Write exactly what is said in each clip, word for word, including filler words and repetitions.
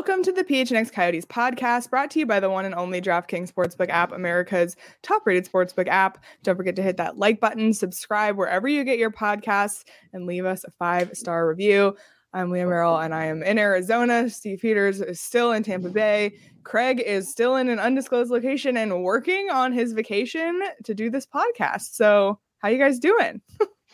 Welcome to the P H N X Coyotes podcast, brought to you by the one and only DraftKings Sportsbook app, America's top-rated sportsbook app. Don't forget to hit that like button, subscribe wherever you get your podcasts, and leave us a five-star review. I'm Leah Merrill, and I am in Arizona. Steve Peters is still in Tampa Bay. Craig is still in an undisclosed location and working on his vacation to do this podcast. So how you guys doing?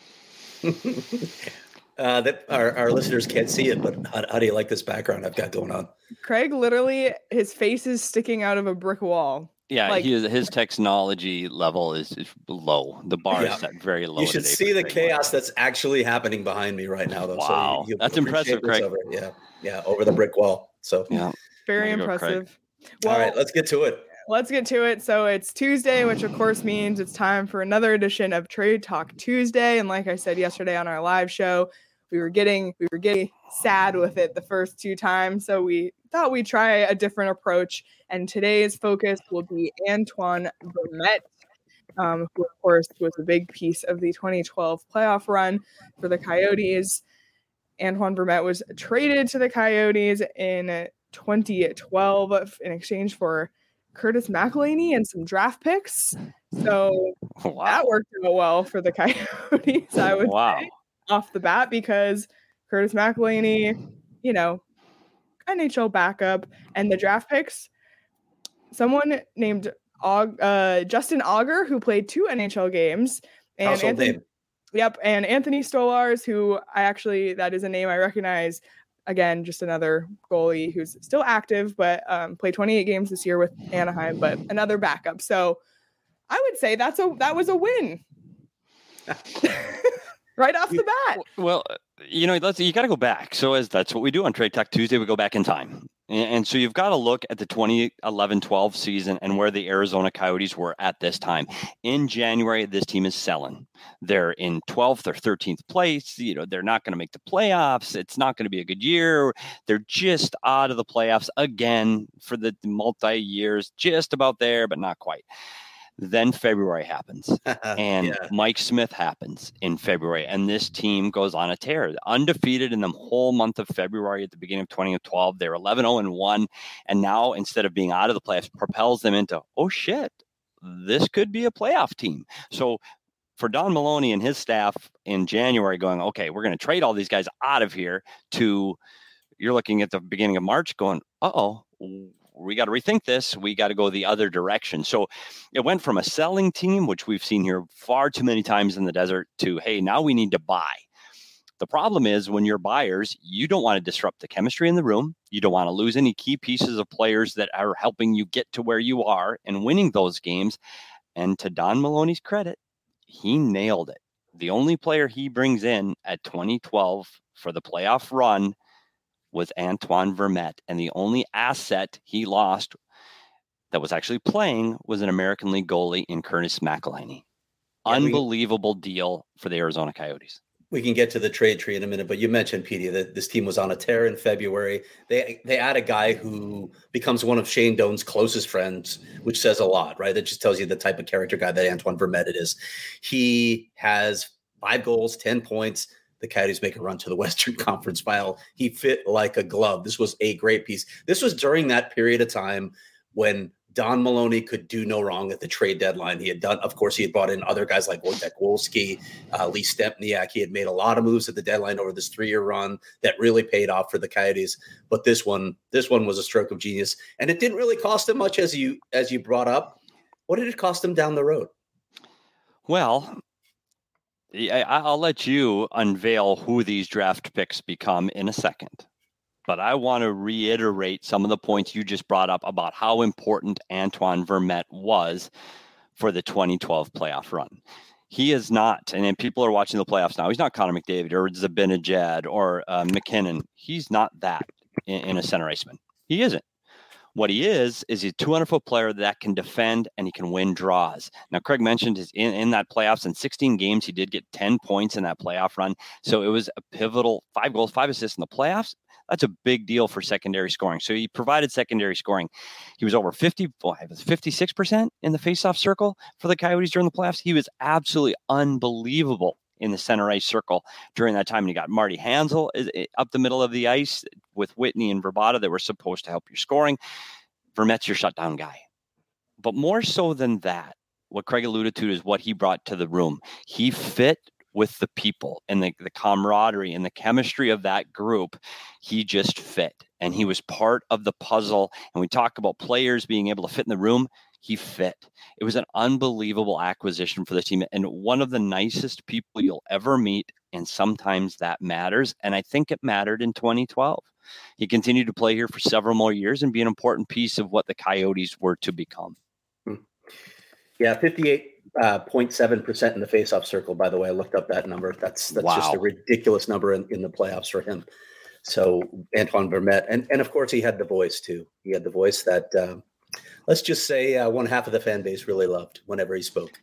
Uh, that our, our listeners can't see it, but how, how do you like this background I've got going on? Craig, literally, his face is sticking out of a brick wall. Yeah, like, he is, his technology level is, is low. The bar yeah. is set very low. You should see the chaos that's actually happening behind me right now, though. Wow, so you, that's impressive, Craig. Over, yeah, yeah, over the brick wall. So yeah, very impressive. Well, all right, let's get to it. Let's get to it. So it's Tuesday, which of course means it's time for another edition of Trade Talk Tuesday. And like I said yesterday on our live show, we were getting we were getting sad with it the first two times, so we thought we'd try a different approach. And today's focus will be Antoine Vermette, um, who of course was a big piece of the twenty twelve playoff run for the Coyotes. Antoine Vermette was traded to the Coyotes in twenty twelve in exchange for Curtis McElhinney and some draft picks. So wow. That worked out well for the Coyotes, I would wow. say, off the bat, because Curtis McElhinney, you know, N H L backup, and the draft picks, someone named uh, Justin Auger, who played two N H L games, and Household Anthony, name. Yep, and Anthony Stolars, who I actually, that is a name I recognize. Again, just another goalie who's still active, but um, played twenty-eight games this year with Anaheim, but another backup. So I would say that's a that was a win. Right off the bat. Well, you know, let's, you got to go back. So as that's what we do on Trade Talk Tuesday, we go back in time. And, and so you've got to look at the twenty eleven twelve season and where the Arizona Coyotes were at this time. In January, this team is selling. They're in twelfth or thirteenth place. You know, they're not going to make the playoffs. It's not going to be a good year. They're just out of the playoffs again for the multi-years, just about there, but not quite. Then February happens, and yeah. Mike Smith happens in February, and this team goes on a tear. Undefeated in the whole month of February at the beginning of twenty twelve. They're eleven oh and one, and now instead of being out of the playoffs, propels them into, oh shit, this could be a playoff team. So for Don Maloney and his staff in January going, okay, we're going to trade all these guys out of here, to you're looking at the beginning of March going, uh-oh, we got to rethink this. We got to go the other direction. So it went from a selling team, which we've seen here far too many times in the desert, to, hey, now we need to buy. The problem is when you're buyers, you don't want to disrupt the chemistry in the room. You don't want to lose any key pieces of players that are helping you get to where you are and winning those games. And to Don Maloney's credit, he nailed it. The only player he brings in at twenty twelve for the playoff run was Antoine Vermette, and the only asset he lost that was actually playing was an American League goalie in Curtis McElhinney. Yeah, Unbelievable we, deal for the Arizona Coyotes. We can get to the trade tree in a minute, but you mentioned, Petey, that this team was on a tear in February. They they add a guy who becomes one of Shane Doan's closest friends, which says a lot, right? That just tells you the type of character guy that Antoine Vermette is. He has five goals, ten points. The Coyotes make a run to the Western Conference Final. He fit like a glove. This was a great piece. This was during that period of time when Don Maloney could do no wrong at the trade deadline. He had done, of course, he had brought in other guys like Wojtek Wolski, uh, Lee Stempniak. He had made a lot of moves at the deadline over this three-year run that really paid off for the Coyotes. But this one, this one was a stroke of genius, and it didn't really cost him much, as you as you brought up. What did it cost him down the road? Well, I'll let you unveil who these draft picks become in a second. But I want to reiterate some of the points you just brought up about how important Antoine Vermette was for the twenty twelve playoff run. He is not, and people are watching the playoffs now, he's not Connor McDavid or Zibanejad or uh, McKinnon. He's not that in, in a center iceman. He isn't. What he is, is he's a two hundred foot player that can defend and he can win draws. Now, Craig mentioned his in, in that playoffs, in sixteen games, he did get ten points in that playoff run. So it was a pivotal five goals, five assists in the playoffs. That's a big deal for secondary scoring. So he provided secondary scoring. He was over fifty, fifty-six percent in the faceoff circle for the Coyotes during the playoffs. He was absolutely unbelievable in the center ice circle during that time. And you got Marty Hansel up the middle of the ice with Whitney and Verbata that were supposed to help your scoring. Vermette's your shutdown guy. But more so than that, what Craig alluded to is what he brought to the room. He fit with the people and the, the camaraderie and the chemistry of that group. He just fit, and he was part of the puzzle. And we talk about players being able to fit in the room. He fit. It was an unbelievable acquisition for the team, and one of the nicest people you'll ever meet. And sometimes that matters. And I think it mattered in twenty twelve. He continued to play here for several more years and be an important piece of what the Coyotes were to become. Yeah, fifty-eight point seven percent in the faceoff circle, by the way. I looked up that number. That's that's Wow. just a ridiculous number in, in the playoffs for him. So Antoine Vermette. And, and of course, he had the voice, too. He had the voice that, uh, let's just say, uh, one half of the fan base really loved whenever he spoke.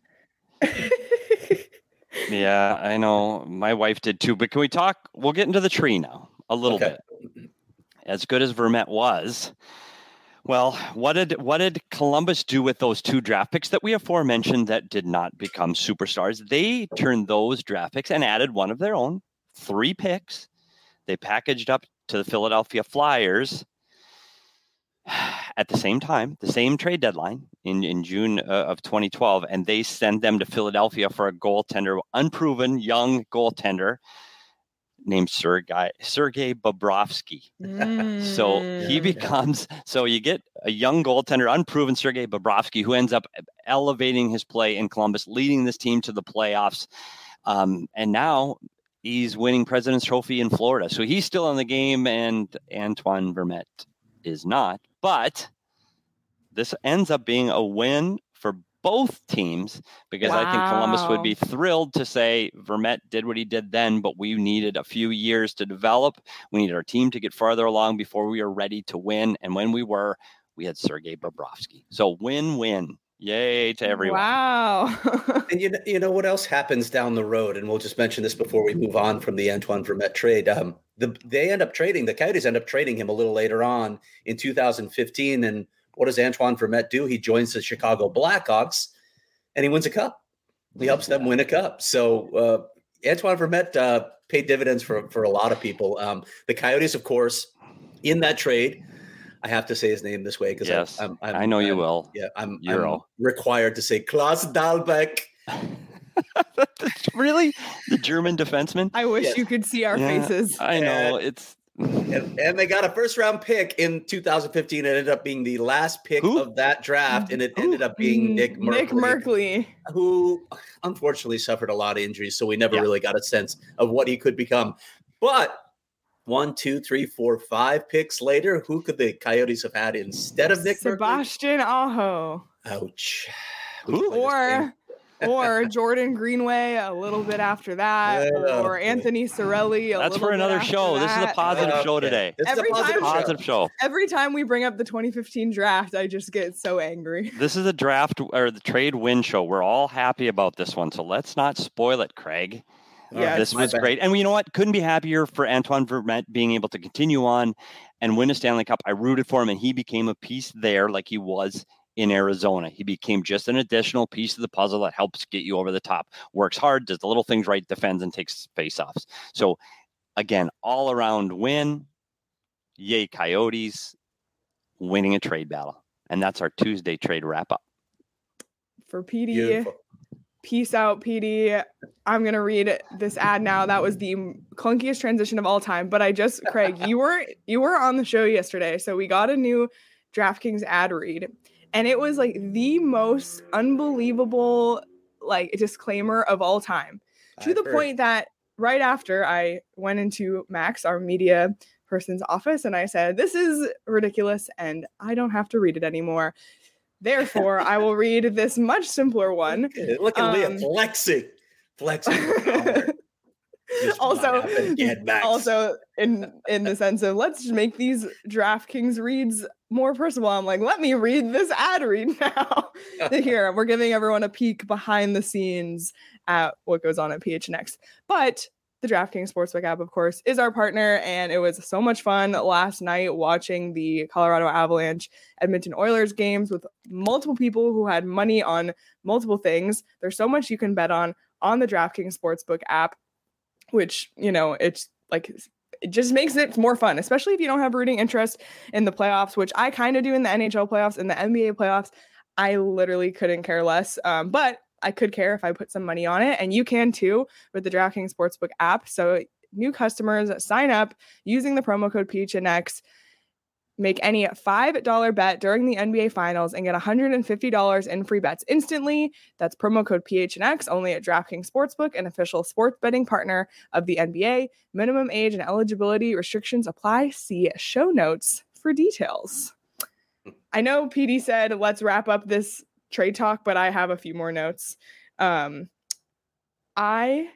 Yeah, I know. My wife did, too. But can we talk? We'll get into the tree now a little Okay. bit. As good as Vermette was, well, what did what did Columbus do with those two draft picks that we aforementioned that did not become superstars? They turned those draft picks and added one of their own, three picks. They packaged up to the Philadelphia Flyers at the same time, the same trade deadline in, in June uh, of twenty twelve, and they sent them to Philadelphia for a goaltender, unproven young goaltender named Sergei Sergei Bobrovsky. Mm. So he becomes, so you get a young goaltender, unproven Sergei Bobrovsky, who ends up elevating his play in Columbus, leading this team to the playoffs. Um, and now he's winning President's Trophy in Florida. So he's still in the game, and Antoine Vermette is not. But this ends up being a win for both teams, because I think Columbus would be thrilled to say Vermette did what he did then, but we needed a few years to develop. We needed our team to get farther along before we were ready to win. And when we were, we had Sergei Bobrovsky. So win-win. Yay to everyone. Wow. And you know, you know what else happens down the road? And we'll just mention this before we move on from the Antoine Vermette trade. Um, the, they end up trading, the Coyotes end up trading him a little later on in two thousand fifteen. And what does Antoine Vermette do? He joins the Chicago Blackhawks and he wins a cup. He helps them win a cup. So uh, Antoine Vermette uh, paid dividends for, for a lot of people. Um, the Coyotes, of course, in that trade, I have to say his name this way because yes, I'm, I'm, I know I'm, you will. Yeah, I'm, Euro. I'm required to say Klaus Dahlbeck. Really? The German defenseman? I wish Yes. you could see our Yeah, faces. I know. And- It's And, and they got a first round pick in two thousand fifteen. It ended up being the last pick Who? of that draft, and it ended up being Nick Merkley, Nick Merkley. who unfortunately suffered a lot of injuries, so we never Yeah. really got a sense of what he could become. But one, two, three, four, five picks later, who could the Coyotes have had instead of Nick Merkley? Sebastian Aho. Ouch. Who? Or or Jordan Greenway a little bit after that, Yeah, or okay. Anthony Sorelli. A that's little for bit another after show. This is a that. positive show Okay. today. This is a Every positive time- show. Positive show. Every time we bring up the twenty fifteen draft, I just get so angry. This is a draft or the trade win show. We're all happy about this one, so let's not spoil it, Craig. Yeah, this my was bad. great. And you know what? Couldn't be happier for Antoine Vermette being able to continue on and win a Stanley Cup. I rooted for him, and he became a piece there like he was in Arizona. He became just an additional piece of the puzzle that helps get you over the top. Works hard, does the little things right, defends, and takes face-offs. So, again, all-around win. Yay, Coyotes. Winning a trade battle. And that's our Tuesday trade wrap-up. For P D, Beautiful. peace out, P D. I'm going to read this ad now. That was the clunkiest transition of all time. But I just, Craig, you were you were on the show yesterday. So we got a new DraftKings ad read. And it was like the most unbelievable like disclaimer of all time. To I've the heard. point that right after I went into Max, our media person's office, and I said, this is ridiculous and I don't have to read it anymore. Therefore, I will read this much simpler one. Look at Leah Um, flexing. Flexing. her power. Just Also- not happen again, Max. Also, in in the sense of let's just make these DraftKings reads more personal. I'm like, let me read this ad read now. Here, we're giving everyone a peek behind the scenes at what goes on at P H N X. But the DraftKings Sportsbook app, of course, is our partner, and it was so much fun last night watching the Colorado Avalanche Edmonton Oilers games with multiple people who had money on multiple things. There's so much you can bet on. on the DraftKings Sportsbook app, which, you know, it's like, it just makes it more fun, especially if you don't have rooting interest in the playoffs, which I kind of do in the N H L playoffs and the N B A playoffs. I literally couldn't care less. Um, but I could care if I put some money on it, and you can too with the DraftKings Sportsbook app. So new customers sign up using the promo code P H N X, make any five dollars bet during the N B A Finals and get one hundred fifty dollars in free bets instantly. That's promo code P H N X only at DraftKings Sportsbook, an official sports betting partner of the N B A. Minimum age and eligibility restrictions apply. See show notes for details. I know P D said, let's wrap up this trade talk, but I have a few more notes. Um, I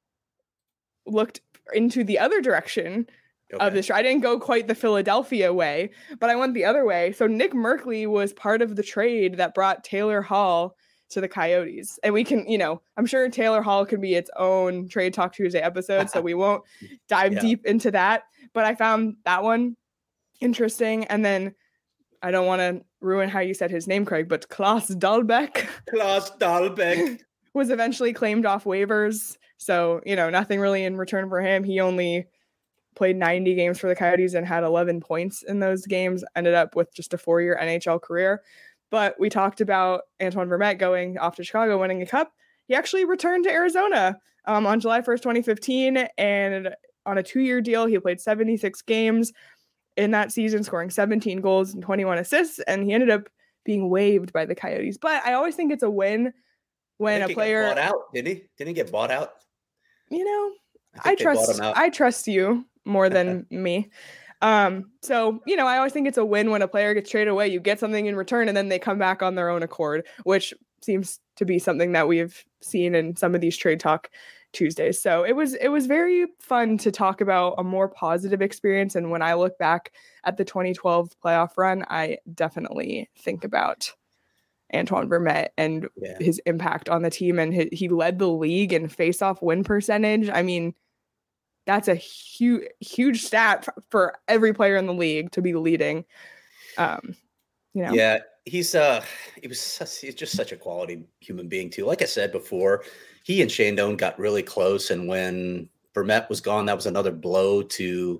looked into the other direction okay. of this. I didn't go quite the Philadelphia way, but I went the other way. So Nick Merkley was part of the trade that brought Taylor Hall to the Coyotes. And we can, you know, I'm sure Taylor Hall can be its own Trade Talk Tuesday episode, so we won't dive yeah. deep into that. But I found that one interesting. And then I don't want to ruin how you said his name, Craig, but Klaus Dahlbeck. Klaus Dahlbeck was eventually claimed off waivers. So, you know, nothing really in return for him. He only played ninety games for the Coyotes and had eleven points in those games, ended up with just a four-year N H L career. But we talked about Antoine Vermette going off to Chicago, winning a cup. He actually returned to Arizona um, on July first, twenty fifteen, and on a two-year deal, he played seventy-six games in that season, scoring seventeen goals and twenty-one assists, and he ended up being waived by the Coyotes. But I always think it's a win when a player got bought out. Didn't he? Didn't he get bought out? You know, I, I trust I trust you more than me. Um, so, you know, I always think it's a win when a player gets traded away. You get something in return, and then they come back on their own accord, which seems to be something that we've seen in some of these Trade Talk Tuesdays. So it was it was very fun to talk about a more positive experience. And when I look back at the twenty twelve playoff run, I definitely think about Antoine Vermette and yeah. his impact on the team. And he, he led the league in face-off win percentage. I mean, that's a huge, huge stat for, for every player in the league to be leading. Um, you know. Yeah, he's uh, he was such, he's just such a quality human being too. Like I said before, he and Shane Doan got really close, and when Vermette was gone, that was another blow to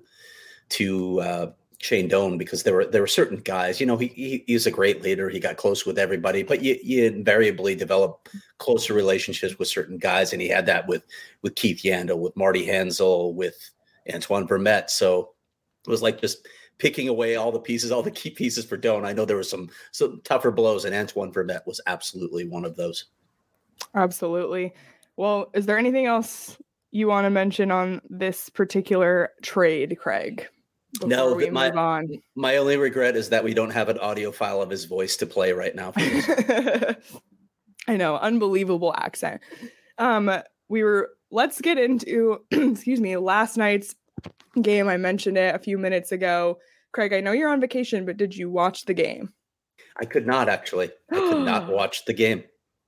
to uh, Shane Doan, because there were there were certain guys. You know, he, he he's a great leader. He got close with everybody, but you, you invariably develop closer relationships with certain guys, and he had that with with Keith Yandle, with Marty Hansel, with Antoine Vermette. So it was like just picking away all the pieces, all the key pieces for Doan. I know there were some some tougher blows, and Antoine Vermette was absolutely one of those. Absolutely. Well, is there anything else you want to mention on this particular trade, Craig? No, we my, move on. My only regret is that we don't have an audio file of his voice to play right now. For this. I know, unbelievable accent. Um, we were, let's get into, excuse me, last night's game. I mentioned it a few minutes ago. Craig, I know you're on vacation, but did you watch the game? I could not, actually. I could not watch the game.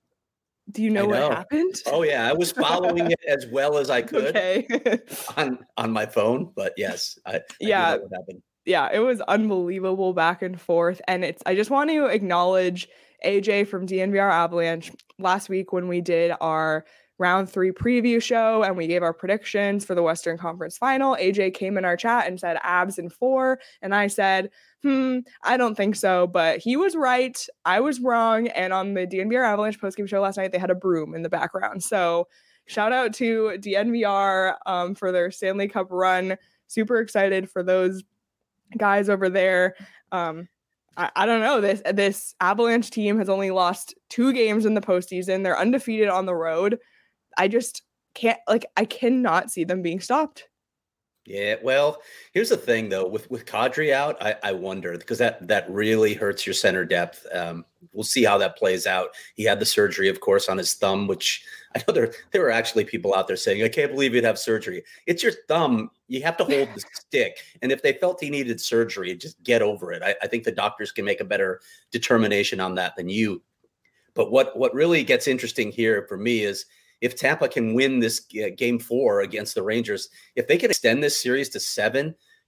Do you know, know what happened? Oh, yeah. I was following it as well as I could okay. on, on my phone. But yes, I, I yeah. know what happened. Yeah, it was unbelievable back and forth. And it's I just want to acknowledge A J from D N V R Avalanche. Last week when we did our round three preview show and we gave our predictions for the Western Conference Final, A J came in our chat and said Abs in four. And I said, hmm, I don't think so. But he was right. I was wrong. And on the D N V R Avalanche postgame show last night, they had a broom in the background. So shout out to D N V R um, for their Stanley Cup run. Super excited for those guys over there. Um, I, I don't know. This this Avalanche team has only lost two games in the postseason. They're undefeated on the road. I just can't, like, I cannot see them being stopped. Yeah, well, here's the thing, though. With with Kadri out, I, I wonder, because that that really hurts your center depth. Um, we'll see how that plays out. He had the surgery, of course, on his thumb, which I know there, there were actually people out there saying, I can't believe you'd have surgery. It's your thumb. You have to hold the stick. And if they felt he needed surgery, just get over it. I, I think the doctors can make a better determination on that than you. But what what really gets interesting here for me is, if Tampa can win this uh, game four against the Rangers, if they can extend this series to seven,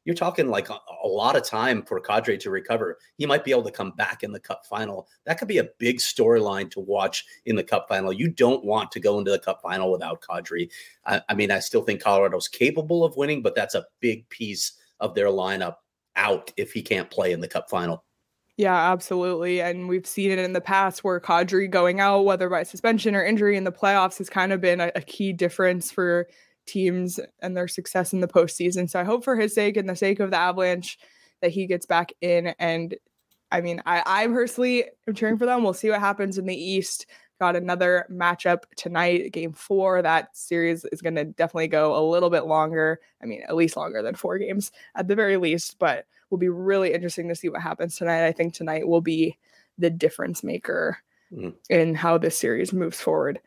you're talking like a, a lot of time for Kadri to recover. He might be able to come back in the Cup final. That could be a big storyline to watch in the Cup final. You don't want to go into the Cup final without Kadri. I, I mean, I still think Colorado's capable of winning, but that's a big piece of their lineup out if he can't play in the Cup final. Yeah, absolutely. And we've seen it in the past where Kadri going out, whether by suspension or injury in the playoffs, has kind of been a, a key difference for teams and their success in the postseason. So I hope for his sake and the sake of the Avalanche that he gets back in. And I mean, I, I personally am cheering for them. We'll see what happens in the East. Got another matchup tonight, game four. That series is going to definitely go a little bit longer. I mean, at least longer than four games at the very least, but will be really interesting to see what happens tonight. I think tonight will be the difference maker mm. in how this series moves forward.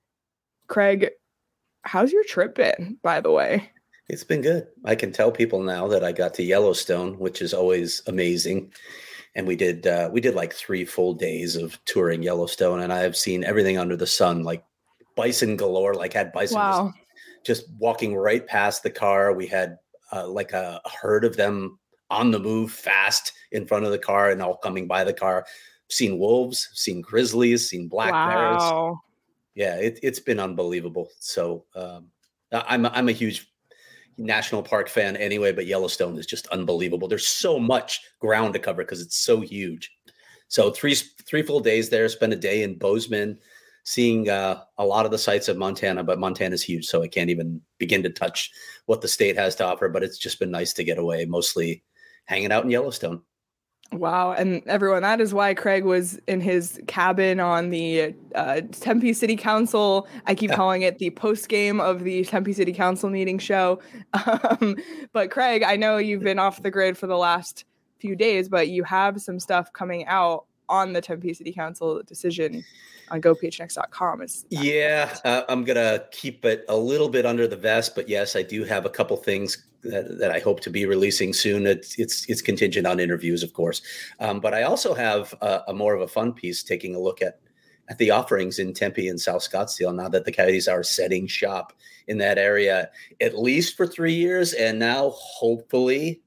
Craig, how's your trip been, by the way? It's been good. I can tell people now that I got to Yellowstone, which is always amazing. And we did uh, we did like three full days of touring Yellowstone, and I have seen everything under the sun, like bison galore, like had bison wow. just, just walking right past the car. We had uh, like a herd of them on the move fast in front of the car and all coming by the car. Seen wolves, seen grizzlies, seen black wow. bears. Yeah, it, it's been unbelievable. So um, I'm I'm a huge national park fan anyway, but Yellowstone is just unbelievable. There's so much ground to cover because it's so huge. So three three full days there. Spent a day in Bozeman, seeing uh, a lot of the sights of Montana, but Montana's huge, so I can't even begin to touch what the state has to offer. But it's just been nice to get away, mostly hanging out in Yellowstone. Wow. And everyone, that is why Craig was in his cabin on the uh, Tempe City Council. I keep calling it the post game of the Tempe City Council meeting show. Um, but Craig, I know you've been off the grid for the last few days, but you have some stuff coming out on the Tempe City Council decision on go p h n x dot com. Is yeah, uh, I'm going to keep it a little bit under the vest, but yes, I do have a couple things that, that I hope to be releasing soon. It's it's, it's contingent on interviews, of course. Um, but I also have a, a more of a fun piece taking a look at, at the offerings in Tempe and South Scottsdale now that the Coyotes are setting shop in that area, at least for three years. And now hopefully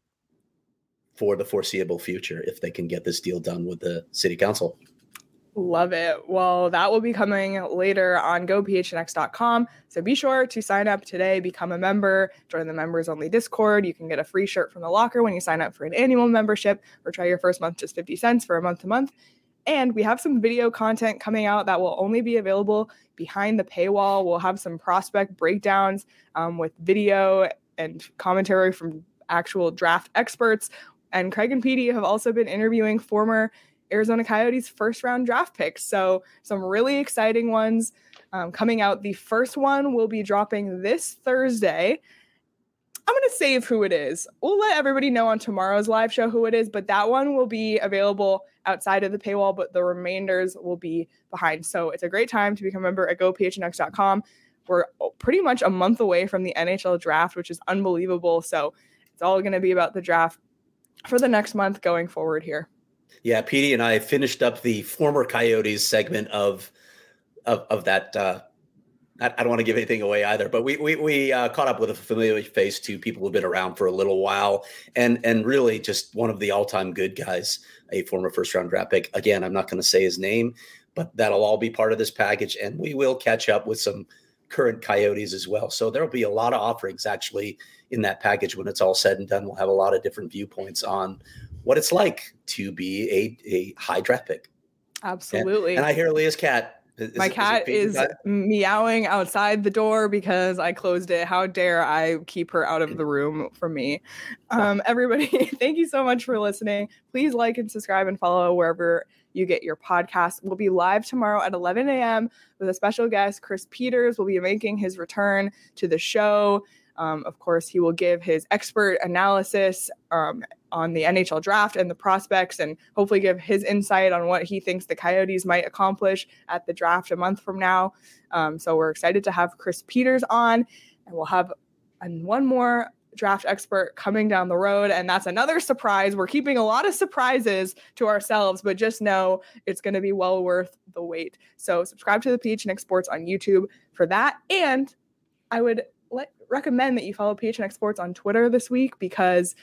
for the foreseeable future, if they can get this deal done with the city council. Love it. Well, that will be coming later on go p h n x dot com. So be sure to sign up today, become a member, join the members only Discord. You can get a free shirt from the locker when you sign up for an annual membership, or try your first month just fifty cents for a month to month. And we have some video content coming out that will only be available behind the paywall. We'll have some prospect breakdowns um, with video and commentary from actual draft experts. And Craig and Petey have also been interviewing former Arizona Coyotes first round draft picks. So some really exciting ones um, coming out. The first one will be dropping this Thursday. I'm going to save who it is. We'll let everybody know on tomorrow's live show who it is, but that one will be available outside of the paywall, but the remainders will be behind. So it's a great time to become a member at go p h n x dot com. We're pretty much a month away from the N H L draft, which is unbelievable. So it's all going to be about the draft for the next month going forward here. Yeah, Petey and I finished up the former Coyotes segment of of, of that. Uh, I, I don't want to give anything away either, but we we, we uh, caught up with a familiar face to people who've been around for a little while, and and really just one of the all time good guys, a former first round draft pick. Again, I'm not going to say his name, but that'll all be part of this package, and we will catch up with some current Coyotes as well. So there'll be a lot of offerings actually in that package when it's all said and done. We'll have a lot of different viewpoints on what it's like to be a, a high draft pick. Absolutely. And, and I hear Leah's cat. Is, My cat is, is meowing outside the door because I closed it. How dare I keep her out of the room from me? Um, everybody, thank you so much for listening. Please like and subscribe and follow wherever you get your podcast. We'll be live tomorrow at eleven a.m. with a special guest. Chris Peters will be making his return to the show. Um, of course, he will give his expert analysis um, on the N H L draft and the prospects, and hopefully give his insight on what he thinks the Coyotes might accomplish at the draft a month from now. Um, so we're excited to have Chris Peters on, and we'll have an, one more draft expert coming down the road. And that's another surprise. We're keeping a lot of surprises to ourselves, but just know it's going to be well worth the wait. So subscribe to the P H N X Sports on YouTube for that. And I would let, recommend that you follow P H N X Sports on Twitter this week, because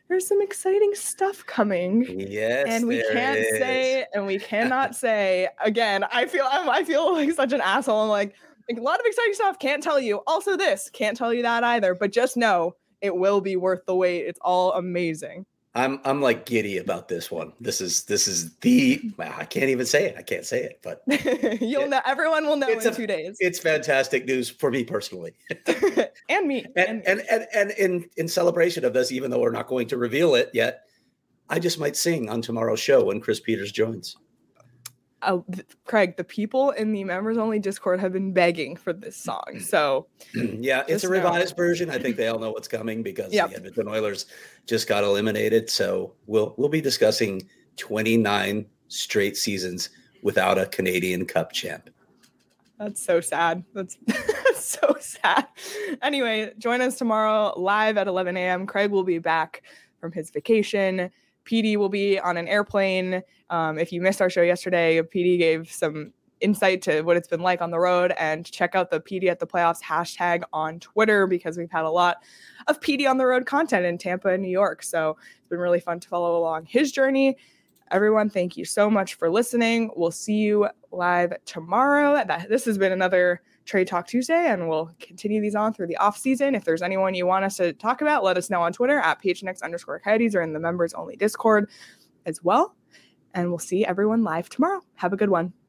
there's some exciting stuff coming. Yes, and we there can't is. say, and we cannot say again. I feel I'm, I feel like such an asshole. I'm like, like a lot of exciting stuff. Can't tell you. Also, this can't tell you that either. But just know it will be worth the wait. It's all amazing. I'm I'm like giddy about this one. This is this is the I can't even say it. I can't say it, but you'll it, know. Everyone will know in a, two days. It's fantastic news for me personally, and me. And and, and, and and in in celebration of this, even though we're not going to reveal it yet, I just might sing on tomorrow's show when Chris Peters joins. Uh, Craig, the people in the members only Discord have been begging for this song. So yeah, it's a revised know. version. I think they all know what's coming because yep. the Edmonton Oilers just got eliminated. So we'll we'll be discussing twenty-nine straight seasons without a Canadian Cup champ. That's so sad. That's, that's so sad. Anyway, join us tomorrow live at eleven a.m. Craig will be back from his vacation. P D will be on an airplane. Um, if you missed our show yesterday, P D gave some insight to what it's been like on the road, and check out the P D at the Playoffs hashtag on Twitter because we've had a lot of P D on the road content in Tampa and New York. So it's been really fun to follow along his journey. Everyone, thank you so much for listening. We'll see you live tomorrow. This has been another Trade Talk Tuesday, and we'll continue these on through the off season. If there's anyone you want us to talk about, let us know on Twitter at P H N X underscore Coyotes or in the members only Discord as well. And we'll see everyone live tomorrow. Have a good one.